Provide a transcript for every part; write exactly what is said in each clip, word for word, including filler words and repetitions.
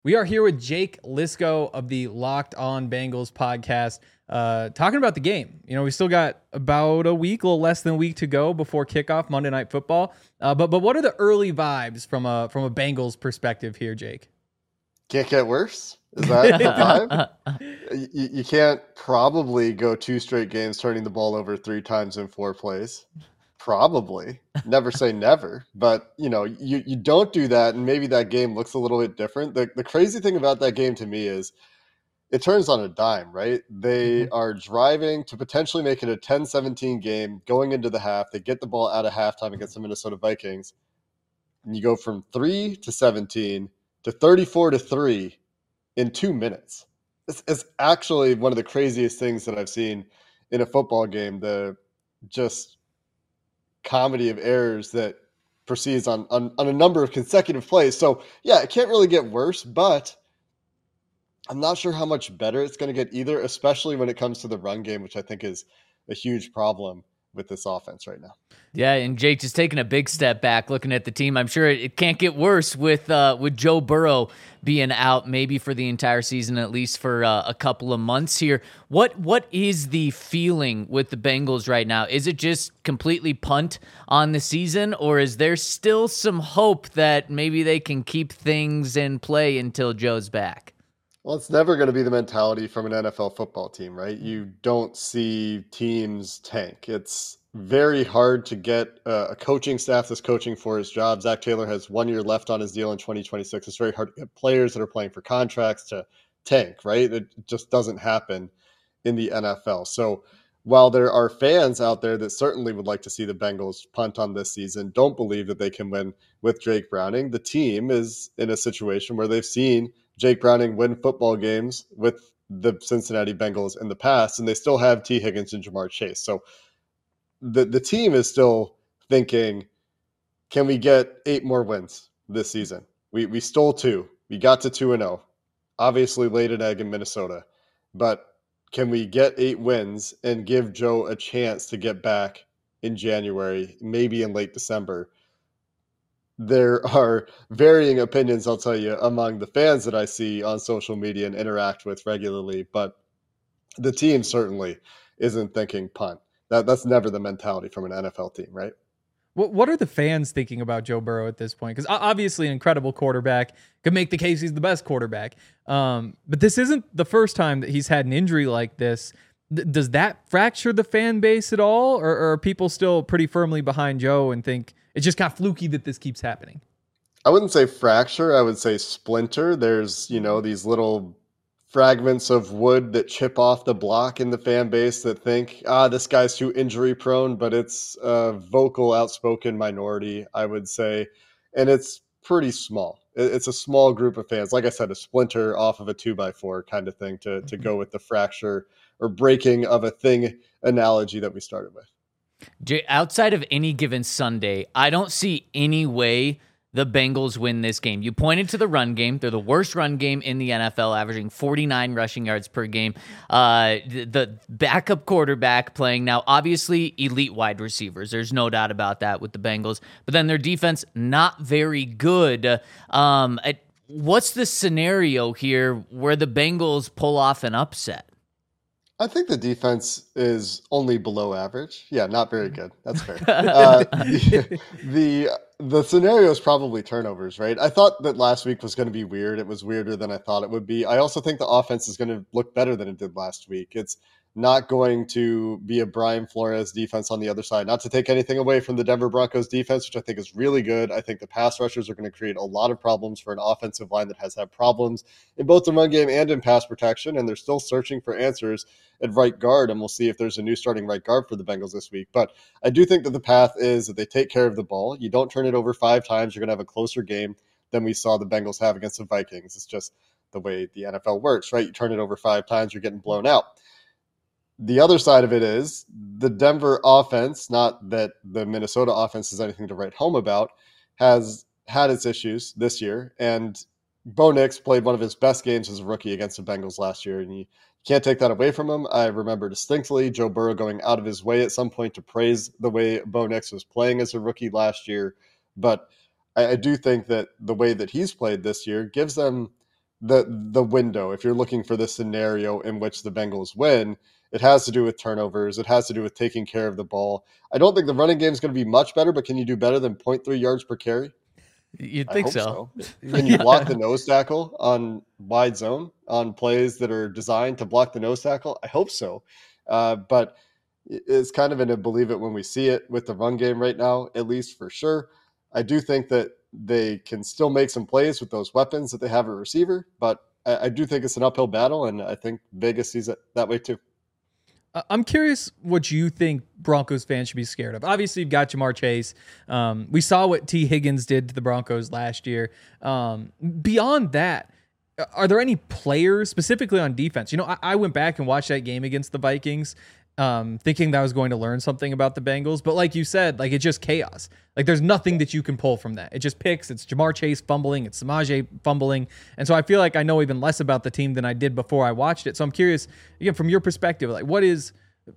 We are here with Jake Liscow of the Locked On Bengals podcast, uh, talking about the game. You know, we still got about a week, a little less than a week to go before kickoff Monday Night Football. Uh, but but what are the early vibes from a from a Bengals perspective here, Jake? Can't get worse. Is that the vibe? you, you can't probably go two straight games turning the ball over three times in four plays. Probably. Never say never. But, you know, you, you don't do that, and maybe that game looks a little bit different. The, the crazy thing about that game to me is it turns on a dime, right? They mm-hmm. are driving to potentially make it a ten seventeen game going into the half. They get the ball out of halftime against the Minnesota Vikings. And you go from three to seventeen to thirty-four to three in two minutes. It's, it's actually one of the craziest things that I've seen in a football game. The just comedy of errors that proceeds on, on, on a number of consecutive plays. So, yeah, it can't really get worse, but I'm not sure how much better it's going to get either, especially when it comes to the run game, which I think is a huge problem with this offense right now. Yeah, and Jake just taking a big step back, looking at the team. I'm sure it, it can't get worse with uh, with Joe Burrow being out, maybe for the entire season, at least for uh, a couple of months here. What what is the feeling with the Bengals right now? Is it just completely punt on the season, or is there still some hope that maybe they can keep things in play until Joe's back? Well, it's never going to be the mentality from an N F L football team, right? You don't see teams tank. It's very hard to get uh, a coaching staff that's coaching for his job. Zach Taylor has one year left on his deal in twenty twenty-six. It's very hard to get players that are playing for contracts to tank, right? It just doesn't happen in the N F L. So while there are fans out there that certainly would like to see the Bengals punt on this season, don't believe that they can win with Jake Browning, the team is in a situation where they've seen Jake Browning win football games with the Cincinnati Bengals in the past, and they still have T. Higgins and Jamar Chase. So the, the team is still thinking, can we get eight more wins this season? We we stole two. We got to two and oh. Obviously laid an egg in Minnesota. But can we get eight wins and give Joe a chance to get back in January, maybe in late December? There are varying opinions, I'll tell you, among the fans that I see on social media and interact with regularly, but the team certainly isn't thinking punt. That That's never the mentality from an N F L team, right? What What are the fans thinking about Joe Burrow at this point? Because obviously an incredible quarterback, could make the case he's the best quarterback. Um, but this isn't the first time that he's had an injury like this. Th- does that fracture the fan base at all? Or, or are people still pretty firmly behind Joe and think it's just kind of fluky that this keeps happening? I wouldn't say fracture. I would say splinter. There's, you know, these little fragments of wood that chip off the block in the fan base that think, ah, this guy's too injury prone, but it's a vocal, outspoken minority, I would say. And it's pretty small. It's a small group of fans. Like I said, a splinter off of a two by four kind of thing to, to go with the fracture or breaking of a thing analogy that we started with. Outside of any given Sunday, I don't see any way the Bengals win this game. You pointed to the run game. They're the worst run game in the N F L, averaging forty-nine rushing yards per game. Uh, the, the backup quarterback playing now, obviously elite wide receivers. There's no doubt about that with the Bengals. But then their defense, not very good. Um, what's the scenario here where the Bengals pull off an upset? I think the defense is only below average. Yeah, not very good. That's fair. Uh, the, the the scenario is probably turnovers, right? I thought that last week was going to be weird. It was weirder than I thought it would be. I also think the offense is going to look better than it did last week. It's not going to be a Brian Flores defense on the other side. Not to take anything away from the Denver Broncos defense, which I think is really good. I think the pass rushers are going to create a lot of problems for an offensive line that has had problems in both the run game and in pass protection, and they're still searching for answers at right guard, and we'll see if there's a new starting right guard for the Bengals this week. But I do think that the path is that they take care of the ball. You don't turn it over five times, you're going to have a closer game than we saw the Bengals have against the Vikings. It's just the way the N F L works, right? You turn it over five times, you're getting blown out. The other side of it is the Denver offense, not that the Minnesota offense is anything to write home about, has had its issues this year. And Bo Nix played one of his best games as a rookie against the Bengals last year, and you can't take that away from him. I remember distinctly Joe Burrow going out of his way at some point to praise the way Bo Nix was playing as a rookie last year. But I, I do think that the way that he's played this year gives them the the window, if you're looking for the scenario in which the Bengals win, it has to do with turnovers. It has to do with taking care of the ball. I don't think the running game is going to be much better, but can you do better than zero point three yards per carry? You'd I think hope so. so. Can you block the nose tackle on wide zone on plays that are designed to block the nose tackle? I hope so. Uh, but it's kind of in a believe it when we see it with the run game right now, at least for sure. I do think that they can still make some plays with those weapons that they have at receiver, but I, I do think it's an uphill battle, and I think Vegas sees it that way too. I'm curious what you think Broncos fans should be scared of. Obviously, you've got Jamar Chase. Um, we saw what T. Higgins did to the Broncos last year. Um, beyond that, are there any players specifically on defense? You know, I, I went back and watched that game against the Vikings, um, thinking that I was going to learn something about the Bengals. But like you said, like it's just chaos. Like there's nothing that you can pull from that. It just picks. It's Jamar Chase fumbling. It's Samaje fumbling. And so I feel like I know even less about the team than I did before I watched it. So I'm curious, again, from your perspective, like what is,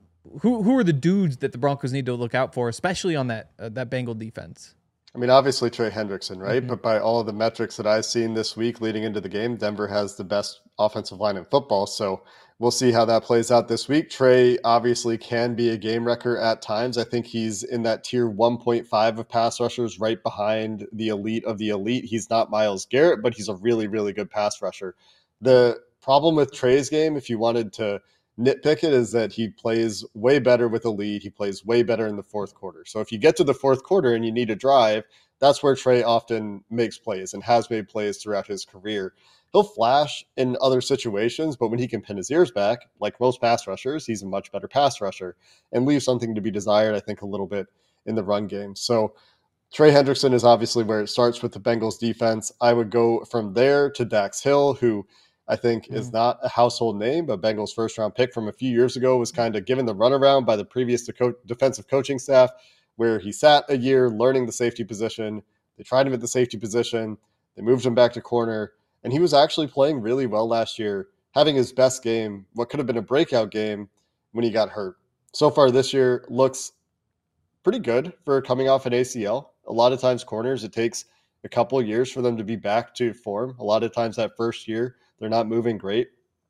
who who are the dudes that the Broncos need to look out for, especially on that uh, that Bengal defense? I mean, obviously Trey Hendrickson, right? Mm-hmm. But by all of the metrics that I've seen this week leading into the game, Denver has the best offensive line in football. So we'll see how that plays out this week. Trey obviously can be a game wrecker at times. I think he's in that tier one point five of pass rushers, right behind the elite of the elite. He's not Myles Garrett, but he's a really, really good pass rusher. The problem with Trey's game, if you wanted to nitpick it, is that he plays way better with a lead. He plays way better in the fourth quarter. So if you get to the fourth quarter and you need a drive, that's where Trey often makes plays and has made plays throughout his career. He'll flash in other situations, but when he can pin his ears back, like most pass rushers, he's a much better pass rusher and leaves something to be desired, I think, a little bit in the run game. So Trey Hendrickson is obviously where it starts with the Bengals defense. I would go from there to Dax Hill, who I think mm. is not a household name, but Bengals first round pick from a few years ago was kind of given the runaround by the previous co- defensive coaching staff, where he sat a year learning the safety position. They tried him at the safety position. They moved him back to corner, and he was actually playing really well last year, having his best game, what could have been a breakout game, when he got hurt. So far this year looks pretty good for coming off an A C L. A lot of times corners, it takes a couple of years for them to be back to form. A lot of times that first year, they're not moving great.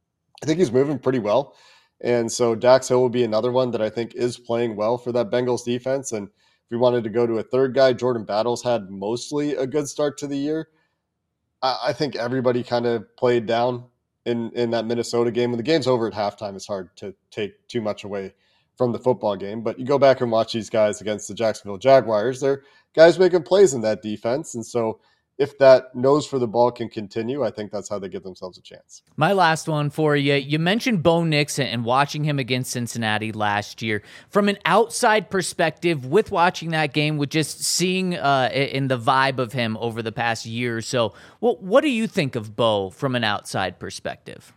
I think he's moving pretty well. And so Dax Hill will be another one that I think is playing well for that Bengals defense. And if we wanted to go to a third guy, Jordan Battles had mostly a good start to the year. I, I think everybody kind of played down in, in that Minnesota game. When the game's over at halftime, it's hard to take too much away from the football game. But you go back and watch these guys against the Jacksonville Jaguars, they're guys making plays in that defense. And so if that nose for the ball can continue, I think that's how they give themselves a chance. My last one for you. You mentioned Bo Nix and watching him against Cincinnati last year. From an outside perspective, with watching that game, with just seeing uh, in the vibe of him over the past year or so, well, what do you think of Bo from an outside perspective?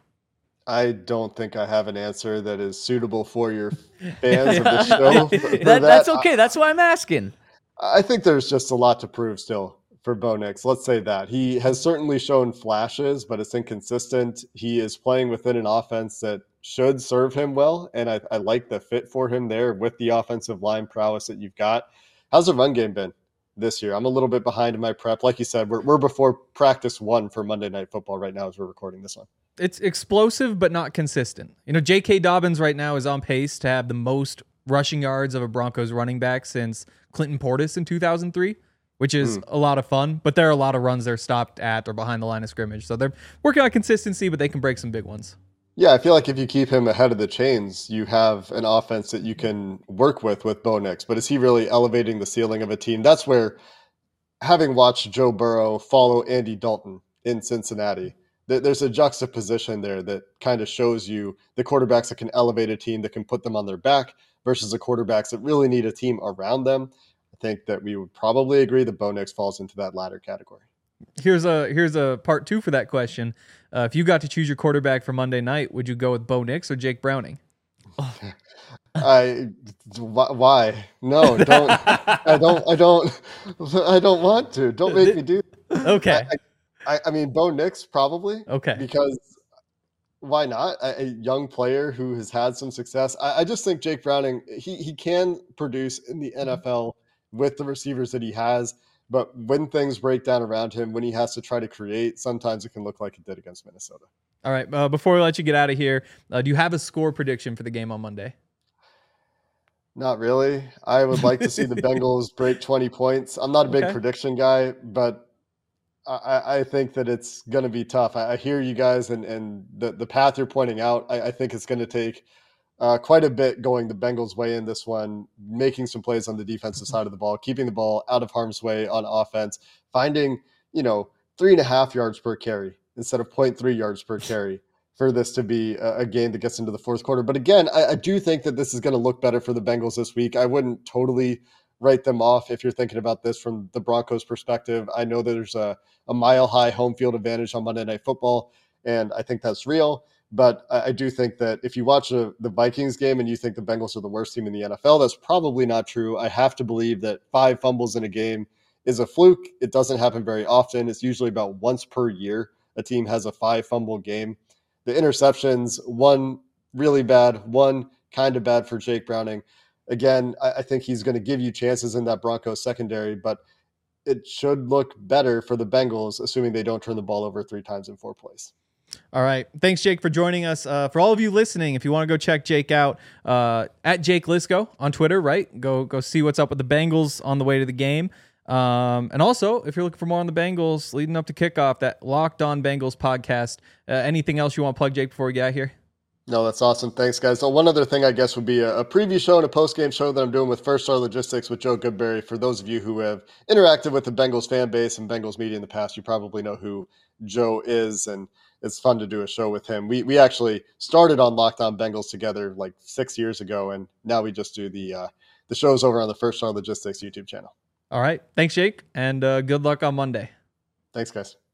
I don't think I have an answer that is suitable for your fans of the show. For, for that, that. That's okay. I, that's why I'm asking. I think there's just a lot to prove still for Bo Nix. Let's say that. He has certainly shown flashes, but it's inconsistent. He is playing within an offense that should serve him well, and I, I like the fit for him there with the offensive line prowess that you've got. How's the run game been this year? I'm a little bit behind in my prep. Like you said, we're, we're before practice one for Monday Night Football right now as we're recording this one. It's explosive, but not consistent. You know, J K. Dobbins right now is on pace to have the most rushing yards of a Broncos running back since Clinton Portis in two thousand three, which is mm. a lot of fun, but there are a lot of runs they're stopped at or behind the line of scrimmage. So they're working on consistency, but they can break some big ones. Yeah, I feel like if you keep him ahead of the chains, you have an offense that you can work with with Bo Nix. But is he really elevating the ceiling of a team? That's where, having watched Joe Burrow follow Andy Dalton in Cincinnati, there's a juxtaposition there that kind of shows you the quarterbacks that can elevate a team, that can put them on their back, versus the quarterbacks that really need a team around them. I think that we would probably agree that Bo Nix falls into that latter category. Here's a here's a part two for that question. Uh, if you got to choose your quarterback for Monday night, would you go with Bo Nix or Jake Browning? I why no don't I don't I don't I don't want to. Don't make me do that. Okay. I, I, I mean, Bo Nix probably. Okay. Because why not? A, a young player who has had some success. I, I just think Jake Browning, he he can produce in the N F L with the receivers that he has. But when things break down around him, when he has to try to create, sometimes it can look like it did against Minnesota. All right. Uh, before we let you get out of here, uh, do you have a score prediction for the game on Monday? Not really. I would like to see the Bengals break twenty points. I'm not a big Okay. prediction guy, but I, I think that it's going to be tough. I, I hear you guys, and, and the, the path you're pointing out, I, I think it's going to take uh, quite a bit going the Bengals' way in this one, making some plays on the defensive side of the ball, keeping the ball out of harm's way on offense, finding, you know, three and a half yards per carry instead of zero point three yards per carry for this to be a, a game that gets into the fourth quarter. But again, I, I do think that this is going to look better for the Bengals this week. I wouldn't totally write them off if you're thinking about this from the Broncos perspective. I know there's a, a mile high home field advantage on Monday Night Football, and I think that's real. But I, I do think that if you watch a, the Vikings game and you think the Bengals are the worst team in the N F L, that's probably not true. I have to believe that five fumbles in a game is a fluke. It doesn't happen very often. It's usually about once per year a team has a five fumble game. The interceptions, one really bad, one kind of bad for Jake Browning. Again, I, I think he's going to give you chances in that Broncos secondary, but it should look better for the Bengals, assuming they don't turn the ball over three times in four plays. All right. Thanks, Jake, for joining us. Uh, for all of you listening, if you want to go check Jake out, uh, at Jake Lisco on Twitter, right? Go go see what's up with the Bengals on the way to the game. Um, and also, if you're looking for more on the Bengals leading up to kickoff, that Locked On Bengals podcast. Uh, anything else you want to plug, Jake, before we get out here? No, that's awesome. Thanks, guys. So one other thing, I guess, would be a, a preview show and a post-game show that I'm doing with First Star Logistics with Joe Goodberry. For those of you who have interacted with the Bengals fan base and Bengals media in the past, you probably know who Joe is, and it's fun to do a show with him. We we actually started on Locked On Bengals together like six years ago, and now we just do the uh, the shows over on the First Star Logistics YouTube channel. All right. Thanks, Jake, and uh, good luck on Monday. Thanks, guys.